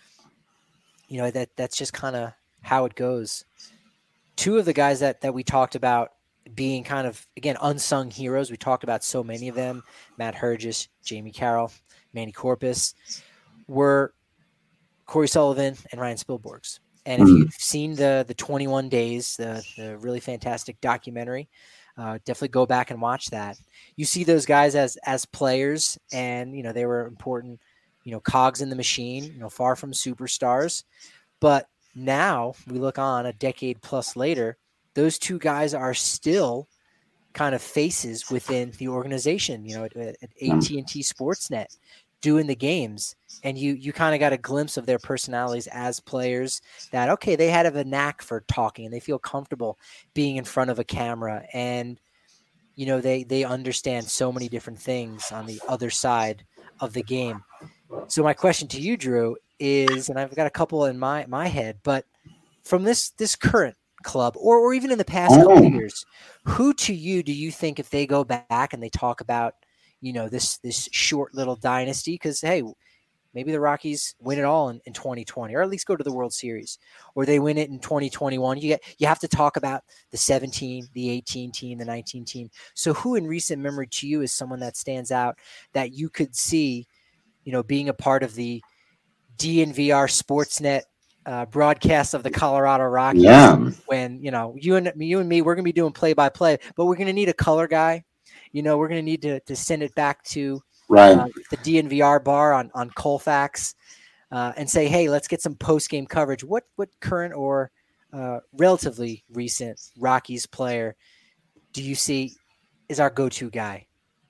you know, that that's just kind of how it goes. Two of the guys that that we talked about being kind of, again, unsung heroes. We talked about so many of them, Matt Hergis, Jamie Carroll, Manny Corpus, were Corey Sullivan and Ryan Spilborghs. And if you've seen the the twenty-one days, the, the really fantastic documentary, uh, definitely go back and watch that. You see those guys as as players, and, you know, they were important, you know, cogs in the machine, you know, far from superstars. But now we look on a decade plus later, those two guys are still kind of faces within the organization, you know, at, at A T and T Sportsnet, doing the games. And you you kind of got a glimpse of their personalities as players, that, okay, they had a knack for talking and they feel comfortable being in front of a camera. And, you know, they, they understand so many different things on the other side of the game. So my question to you, Drew, is, and I've got a couple in my, my head, but from this, this current club, or, or even in the past couple of years, who to you do you think, if they go back and they talk about, you know, this this short little dynasty, because hey, maybe the Rockies win it all in, in twenty twenty, or at least go to the World Series, or they win it in twenty twenty-one, you get you have to talk about the seventeen, the eighteen team, the nineteen team. So who in recent memory to you is someone that stands out that you could see, you know, being a part of the D N V R Sportsnet Uh, broadcast of the Colorado Rockies, yeah. when, you know, you and you and me, we're going to be doing play by play, but we're going to need a color guy. You know, we're going to need to to send it back to right. uh, the D N V R bar on, on Colfax. uh, and say, hey, let's get some post game coverage. What what current or uh, relatively recent Rockies player do you see is our go-to guy?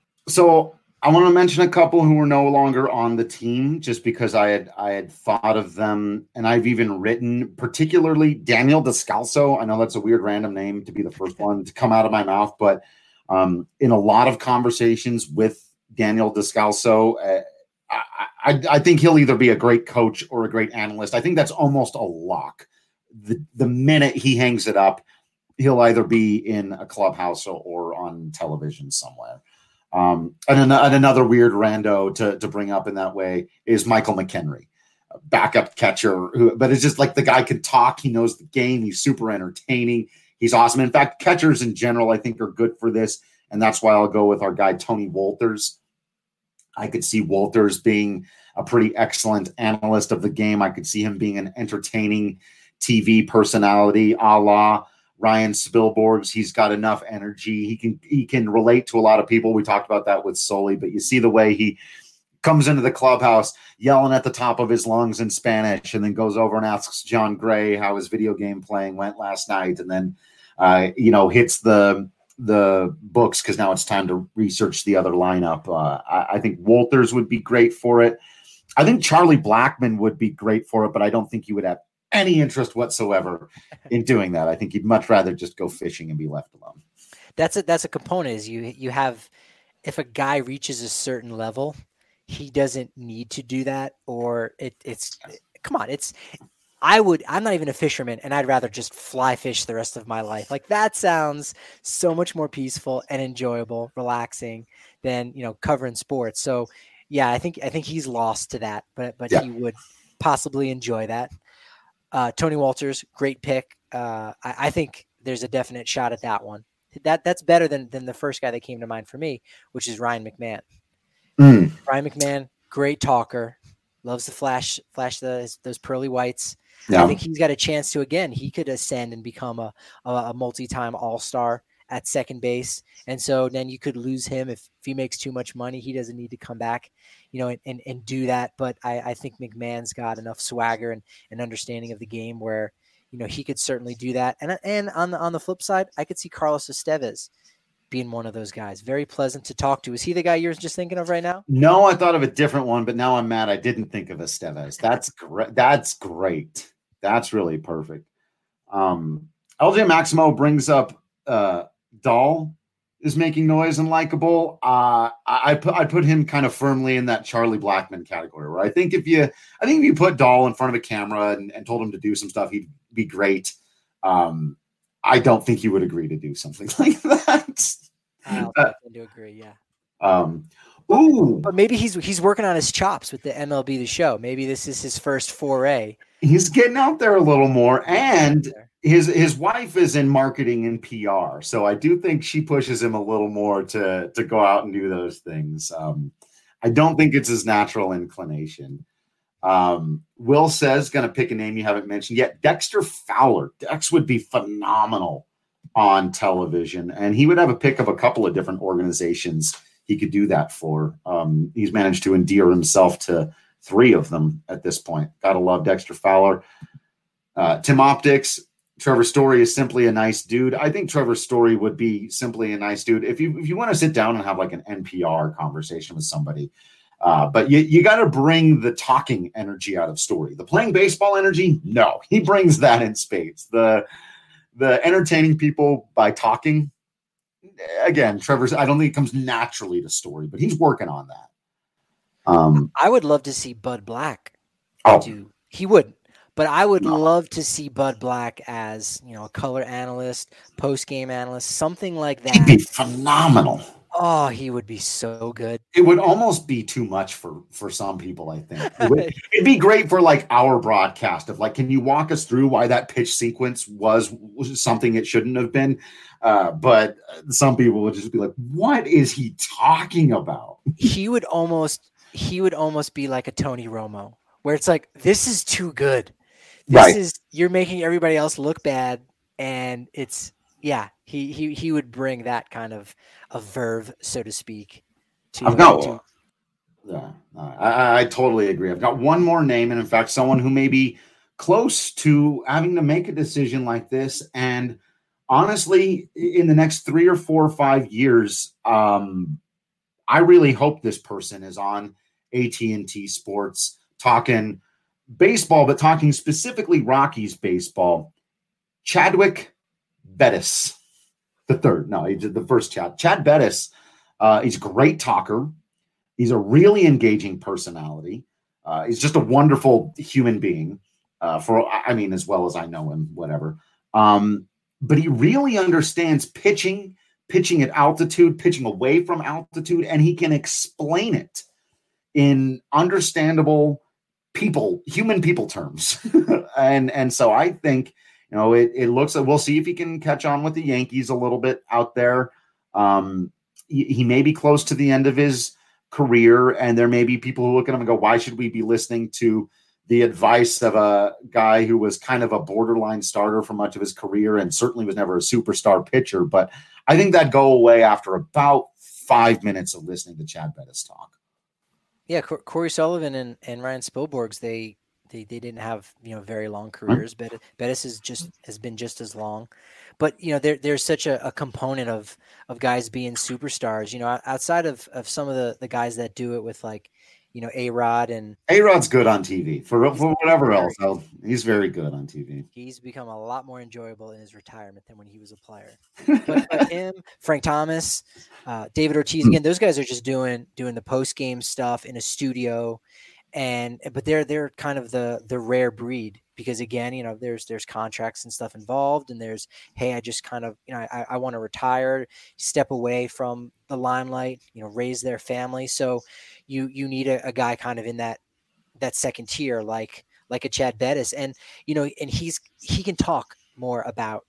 So I want to mention a couple who are no longer on the team, just because I had I had thought of them, and I've even written, particularly Daniel Descalso. I know that's a weird random name to be the first one to come out of my mouth, but um, in a lot of conversations with Daniel Descalso, uh, I, I, I think he'll either be a great coach or a great analyst. I think that's almost a lock. The the minute he hangs it up, he'll either be in a clubhouse or, or on television somewhere. Um, and, an, and another weird rando to, to bring up in that way is Michael McHenry, a backup catcher, who, but it's just like the guy can talk. He knows the game. He's super entertaining. He's awesome. In fact, catchers in general, I think, are good for this. And that's why I'll go with our guy, Tony Wolters. I could see Wolters being a pretty excellent analyst of the game. I could see him being an entertaining T V personality, a la Ryan Spilborghs. He's got enough energy. He can he can relate to a lot of people. We talked about that with Sully, but you see the way he comes into the clubhouse yelling at the top of his lungs in Spanish, and then goes over and asks John Gray how his video game playing went last night, and then uh, you know hits the the books because now it's time to research the other lineup. Uh, I, I think Wolters would be great for it. I think Charlie Blackmon would be great for it, but I don't think he would have any interest whatsoever in doing that. I think he'd much rather just go fishing and be left alone. That's a, that's a component is you, you have, if a guy reaches a certain level, he doesn't need to do that, or it it's, come on. It's, I would, I'm not even a fisherman, and I'd rather just fly fish the rest of my life. Like that sounds so much more peaceful and enjoyable, relaxing than, you know, covering sports. So yeah, I think, I think he's lost to that, but, but yeah. He would possibly enjoy that. Uh, Tony Wolters, great pick. Uh, I, I think there's a definite shot at that one. That that's better than than the first guy that came to mind for me, which is Ryan McMahon. Mm. Ryan McMahon, great talker, loves to flash flash the, those pearly whites. Yeah. I think he's got a chance to, again, he could ascend and become a a, a multi-time all-star at second base. And so then you could lose him if, if he makes too much money. He doesn't need to come back, you know, and, and, and do that. But I, I think McMahon's got enough swagger and, and understanding of the game where, you know, he could certainly do that. And and on the on the flip side, I could see Carlos Estevez being one of those guys. Very pleasant to talk to. Is he the guy you're just thinking of right now? No, I thought of a different one, but now I'm mad I didn't think of Estevez. That's great. That's great. That's really perfect. Um, L J Maximo brings up uh, Dahl is making noise and likable. Uh, I, I put I put him kind of firmly in that Charlie Blackmon category, where I think if you I think if you put Dahl in front of a camera and, and told him to do some stuff, he'd be great. Um, I don't think he would agree to do something like that. I uh, tend to agree, yeah. Um, ooh, but maybe he's he's working on his chops with the M L B The Show. Maybe this is his first foray. He's getting out there a little more, and his his wife is in marketing and P R, so I do think she pushes him a little more to to go out and do those things. Um, I don't think it's his natural inclination. Um, Will says, going to pick a name you haven't mentioned yet, Dexter Fowler. Dex would be phenomenal on television, and he would have a pick of a couple of different organizations he could do that for. Um, he's managed to endear himself to three of them at this point. Gotta love Dexter Fowler. Uh, Tim Optics, Trevor Story is simply a nice dude. I think Trevor Story would be simply a nice dude. If you if you want to sit down and have like an N P R conversation with somebody, uh, but you, you got to bring the talking energy out of Story. The playing baseball energy, no. He brings that in spades. The, the entertaining people by talking, again, Trevor's, I don't think it comes naturally to Story, but he's working on that. Um, I would love to see Bud Black oh. do. He wouldn't, but I would no. love to see Bud Black as, you know, a color analyst, post game analyst, something like that. He'd be phenomenal. Oh, he would be so good. It would almost be too much for for some people, I think. It would, it'd be great for like our broadcast of like, can you walk us through why that pitch sequence was, was something it shouldn't have been? Uh, but some people would just be like, what is he talking about? He would almost he would almost be like a Tony Romo, where it's like, this is too good. This right. is you're making everybody else look bad, and it's yeah, he he he would bring that kind of a verve, so to speak. To, I've got to, Yeah, I, I totally agree. I've got one more name, and in fact, someone who may be close to having to make a decision like this. And honestly, in the next three or four or five years, um, I really hope this person is on A T and T Sports talking baseball, but talking specifically Rockies baseball. Chadwick Bettis, the third. No, he did the first Chad. Chad Bettis. Uh, he's a great talker. He's a really engaging personality. Uh, he's just a wonderful human being. Uh, for I mean, as well as I know him, whatever. Um, but he really understands pitching, pitching at altitude, pitching away from altitude, and he can explain it in understandable people, human people terms. and and so I think, you know, it, it looks like we'll see if he can catch on with the Yankees a little bit out there. Um, he, he may be close to the end of his career, and there may be people who look at him and go, why should we be listening to the advice of a guy who was kind of a borderline starter for much of his career and certainly was never a superstar pitcher? But I think that go away after about five minutes of listening to Chad Bettis talk. Yeah, Corey Sullivan and, and Ryan Spilborghs, they, they they didn't have, you know, very long careers. Right. Bettis is just has been just as long. But, you know, there there's such a, a component of of guys being superstars, you know, outside of, of some of the, the guys that do it with, like, you know, A-Rod and A-Rod's good on T V for, for whatever else. I'll, he's very good on T V. He's become a lot more enjoyable in his retirement than when he was a player. But, but him, Frank Thomas, uh, David Ortiz, again, those guys are just doing doing the post game stuff in a studio, and but they're they're kind of the the rare breed because, again, you know, there's there's contracts and stuff involved, and there's, hey, I just kind of, you know, I, I want to retire, step away from the limelight, you know, raise their family. So you you need a, a guy kind of in that that second tier, like like a Chad Bettis, and you know, and he's he can talk more about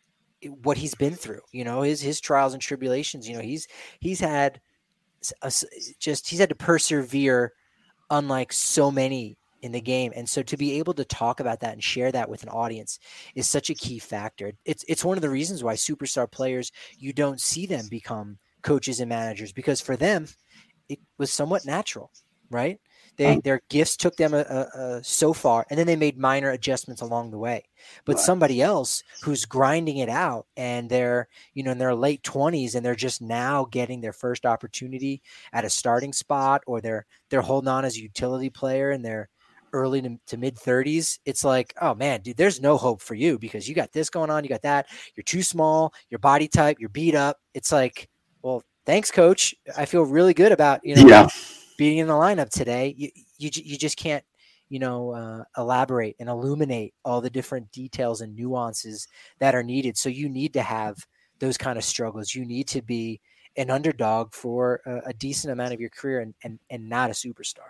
what he's been through, you know, his his trials and tribulations. You know, he's he's had a, just he's had to persevere, unlike so many in the game. And so to be able to talk about that and share that with an audience is such a key factor. It's it's one of the reasons why superstar players, you don't see them become coaches and managers, because for them it was somewhat natural, right? They um, their gifts took them a, a, a so far, and then they made minor adjustments along the way. But right. somebody else who's grinding it out, and they're, you know, in their late twenties, and they're just now getting their first opportunity at a starting spot, or they're they're holding on as a utility player in their early to, to mid thirties. It's like, oh man, dude, there's no hope for you because you got this going on, you got that, you're too small, your body type, you're beat up. It's like, well, thanks, coach. I feel really good about, you know, yeah. being in the lineup today. You, you, you just can't, you know, uh, elaborate and illuminate all the different details and nuances that are needed. So you need to have those kind of struggles. You need to be an underdog for a, a decent amount of your career and, and, and not a superstar.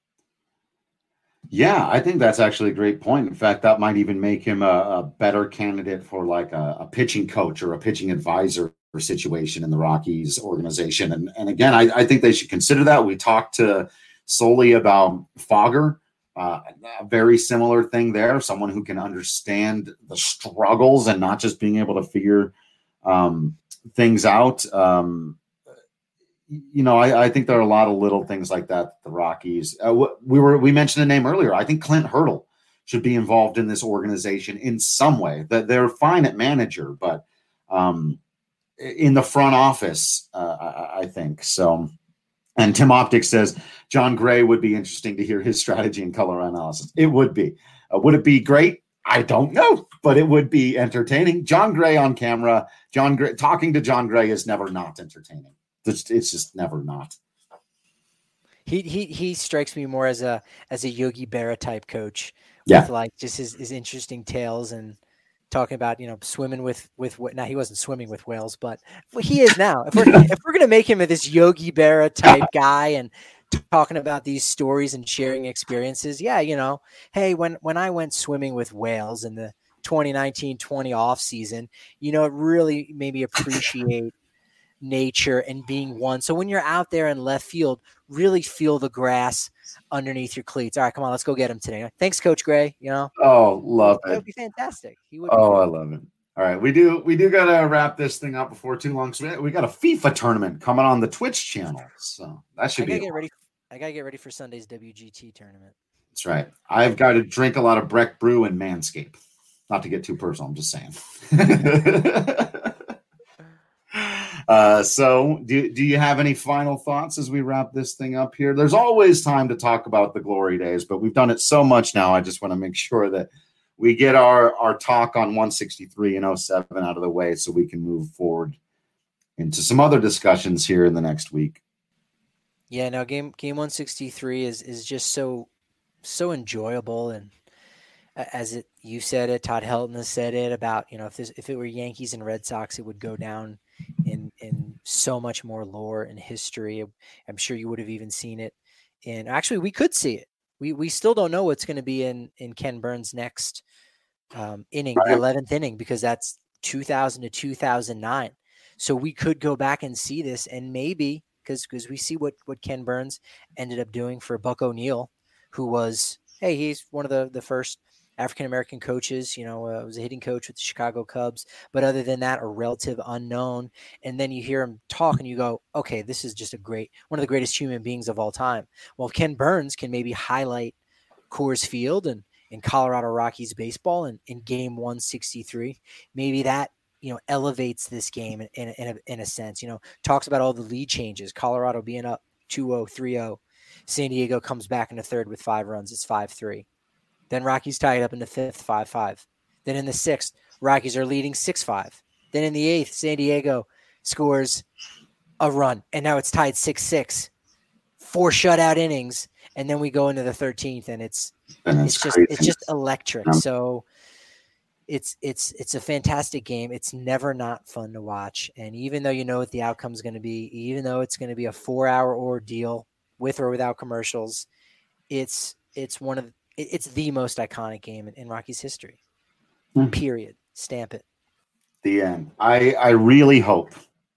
Yeah, I think that's actually a great point. In fact, that might even make him a, a better candidate for like a, a pitching coach or a pitching advisor situation in the Rockies organization. And, and again, I, I think they should consider that. We talked to Solely about Fogger, uh, a very similar thing there. Someone who can understand the struggles and not just being able to figure um, things out. Um, you know, I, I think there are a lot of little things like that. The Rockies, uh, we were, we mentioned a name earlier. I think Clint Hurdle should be involved in this organization in some way. That they're fine at manager, but um, in the front office, uh, I, I think so. And Tim Optic says John Gray would be interesting to hear his strategy and color analysis. It would be. Uh, would it be great? I don't know, but it would be entertaining. John Gray on camera, John Gray talking to John Gray is never not entertaining. It's, it's just never not. He he he strikes me more as a as a Yogi Berra type coach. Yeah, with like just his, his interesting tales and talking about, you know, swimming with with what now he wasn't swimming with whales, but he is now. If we're if we're gonna make him this Yogi Berra type guy and talking about these stories and sharing experiences, yeah, you know, hey, when when I went swimming with whales in the twenty nineteen twenty off season, you know, it really made me appreciate nature and being one. So when you're out there in left field, really feel the grass underneath your cleats. All right, come on, let's go get him today. Thanks, Coach Gray. You know, oh, love it. That would be fantastic. He would. Oh, I love it. All right, we do we do gotta wrap this thing up before too long. So we got a FIFA tournament coming on the Twitch channel, so that should I be. Get ready. I got to get ready for Sunday's W G T tournament. That's right. I've got to drink a lot of Breck Brew and Manscaped. Not to get too personal, I'm just saying. uh, so do, do you have any final thoughts as we wrap this thing up here? There's always time to talk about the glory days, but we've done it so much now. I just want to make sure that we get our, our talk on one sixty-three and oh seven out of the way so we can move forward into some other discussions here in the next week. Yeah, no, game game one sixty-three is is just so so enjoyable, and as it you said it, Todd Helton has said it about, you know, if this if it were Yankees and Red Sox, it would go down in in so much more lore and history. I'm sure you would have even seen it. And actually, we could see it. We we still don't know what's going to be in in Ken Burns' next um, inning, right. The eleventh inning, because that's two thousand to two thousand nine. So we could go back and see this, and maybe because because we see what what Ken Burns ended up doing for Buck O'Neil, who was hey he's one of the the first African-American coaches, you know, uh, was a hitting coach with the Chicago Cubs. But other than that, a relative unknown. And then you hear him talk and you go, okay, this is just a great, one of the greatest human beings of all time. Well, Ken Burns can maybe highlight Coors Field and in Colorado Rockies baseball and in game one sixty-three. Maybe that, you know, elevates this game in, in, in, a, in a sense, you know, talks about all the lead changes, Colorado being up two oh, three oh. San Diego comes back in the third with five runs. It's five three. Then Rockies tied up in the fifth, five five. Then in the sixth, Rockies are leading six five. Then in the eighth, San Diego scores a run, and now it's tied six six. Four shutout innings, and then we go into the thirteenth, and it's it's just crazy. It's just electric. So it's it's it's a fantastic game. It's never not fun to watch, and even though you know what the outcome is going to be, even though it's going to be a four-hour ordeal with or without commercials, it's it's one of It's the most iconic game in, in Rockies history. Mm. Period. Stamp it. The end. I, I really hope,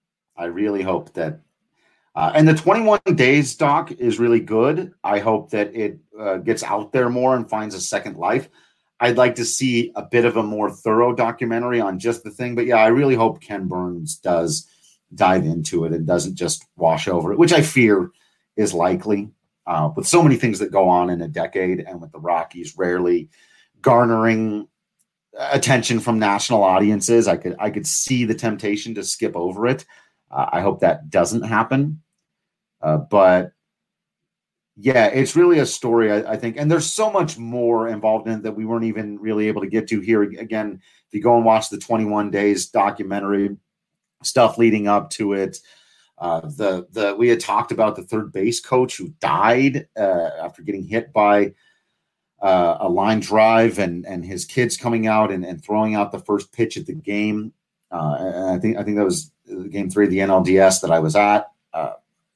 I really hope that, uh, and the twenty-one days doc is really good. I hope that it uh, gets out there more and finds a second life. I'd like to see a bit of a more thorough documentary on just the thing. But yeah, I really hope Ken Burns does dive into it and doesn't just wash over it, which I fear is likely. Uh, with so many things that go on in a decade, and with the Rockies rarely garnering attention from national audiences, I could I could see the temptation to skip over it. Uh, I hope that doesn't happen. Uh, but yeah, it's really a story, I, I think, and there's so much more involved in it that we weren't even really able to get to here. Again, if you go and watch the twenty-one days documentary, stuff leading up to it. Uh, the the we had talked about the third base coach who died uh, after getting hit by uh, a line drive, and and his kids coming out and, and throwing out the first pitch at the game. Uh, and I think I think that was game three of the N L D S that I was at. Uh,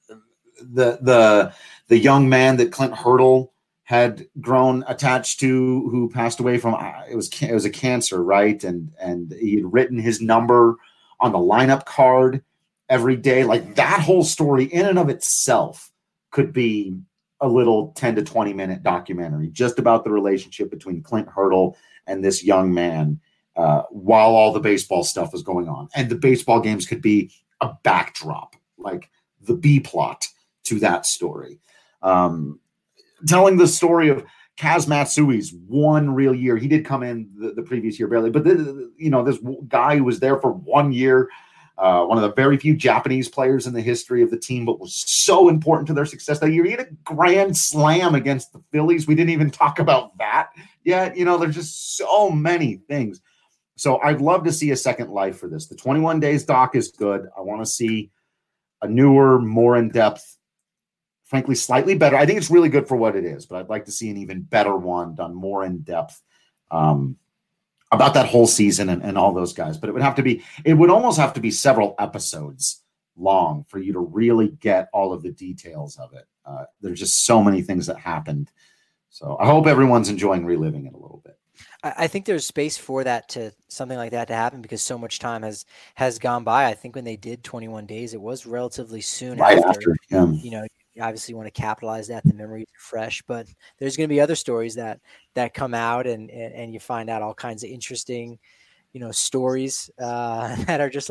the the the young man that Clint Hurdle had grown attached to, who passed away from it was it was a cancer, right? And and he had written his number on the lineup card every day. Like, that whole story in and of itself could be a little ten to twenty minute documentary just about the relationship between Clint Hurdle and this young man uh, while all the baseball stuff was going on. And the baseball games could be a backdrop, like the B plot to that story. Um, telling the story of Kaz Matsui's one real year. He did come in the, the previous year barely, but the, you know, this guy who was there for one year, Uh, one of the very few Japanese players in the history of the team, but was so important to their success that year. He had a grand slam against the Phillies. We didn't even talk about that yet. You know, there's just so many things. So I'd love to see a second life for this. The twenty-one days doc is good. I want to see a newer, more in-depth, frankly, slightly better. I think it's really good for what it is, but I'd like to see an even better one done more in-depth. Um, about that whole season and, and all those guys. But it would have to be, it would almost have to be several episodes long for you to really get all of the details of it. Uh, there's just so many things that happened. So I hope everyone's enjoying reliving it a little bit. I think there's space for that to something like that to happen because so much time has, has gone by. I think when they did twenty-one days, it was relatively soon right after, after yeah. you know, you obviously want to capitalize that. The memories are fresh, but there's going to be other stories that, that come out and, and, and you find out all kinds of interesting, you know, stories uh, that are just like,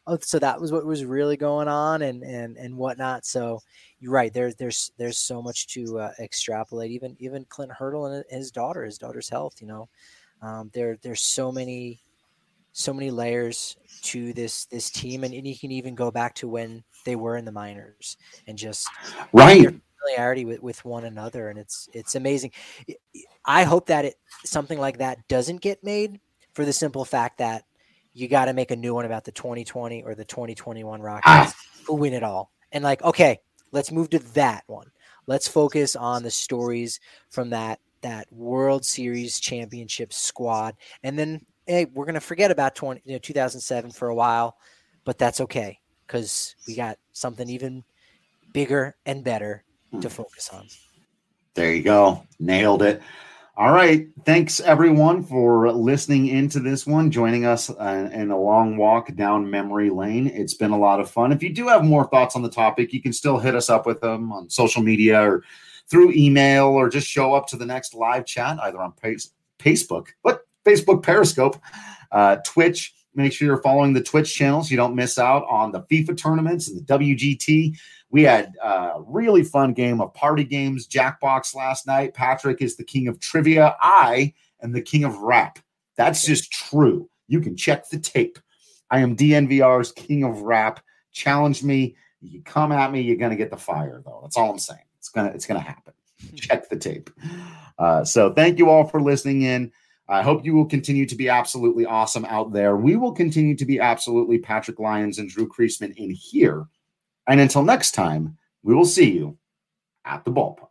oh, so that was what was really going on and and and whatnot. So you're right. There's there's there's so much to uh, extrapolate. Even even Clint Hurdle and his daughter, his daughter's health. You know, um, there there's so many so many layers to this this team, and, and you can even go back to when they were in the minors and just right. Their familiarity with, with one another, and it's it's amazing. I hope that it something like that doesn't get made for the simple fact that you got to make a new one about the twenty twenty or the twenty twenty-one Rockets ah. who win it all. And like, okay, let's move to that one. Let's focus on the stories from that that World Series championship squad. And then, hey, we're going to forget about twenty, you know, two thousand seven for a while, but that's okay because we got something even bigger and better to focus on. There you go. Nailed it. All right. Thanks, everyone, for listening into this one, joining us uh, in a long walk down memory lane. It's been a lot of fun. If you do have more thoughts on the topic, you can still hit us up with them on social media or through email, or just show up to the next live chat, either on pace, Facebook, what? Facebook Periscope, uh, Twitch. Make sure you're following the Twitch channels so you don't miss out on the FIFA tournaments and the W G T. We had a really fun game of party games, Jackbox last night. Patrick is the king of trivia. I am the king of rap. That's just true. You can check the tape. I am D N V R's king of rap. Challenge me. You come at me, you're going to get the fire, though. That's all I'm saying. It's going to it's gonna happen. Check the tape. Uh, so thank you all for listening in. I hope you will continue to be absolutely awesome out there. We will continue to be absolutely Patrick Lyons and Drew Creasman in here. And until next time, we will see you at the ballpark.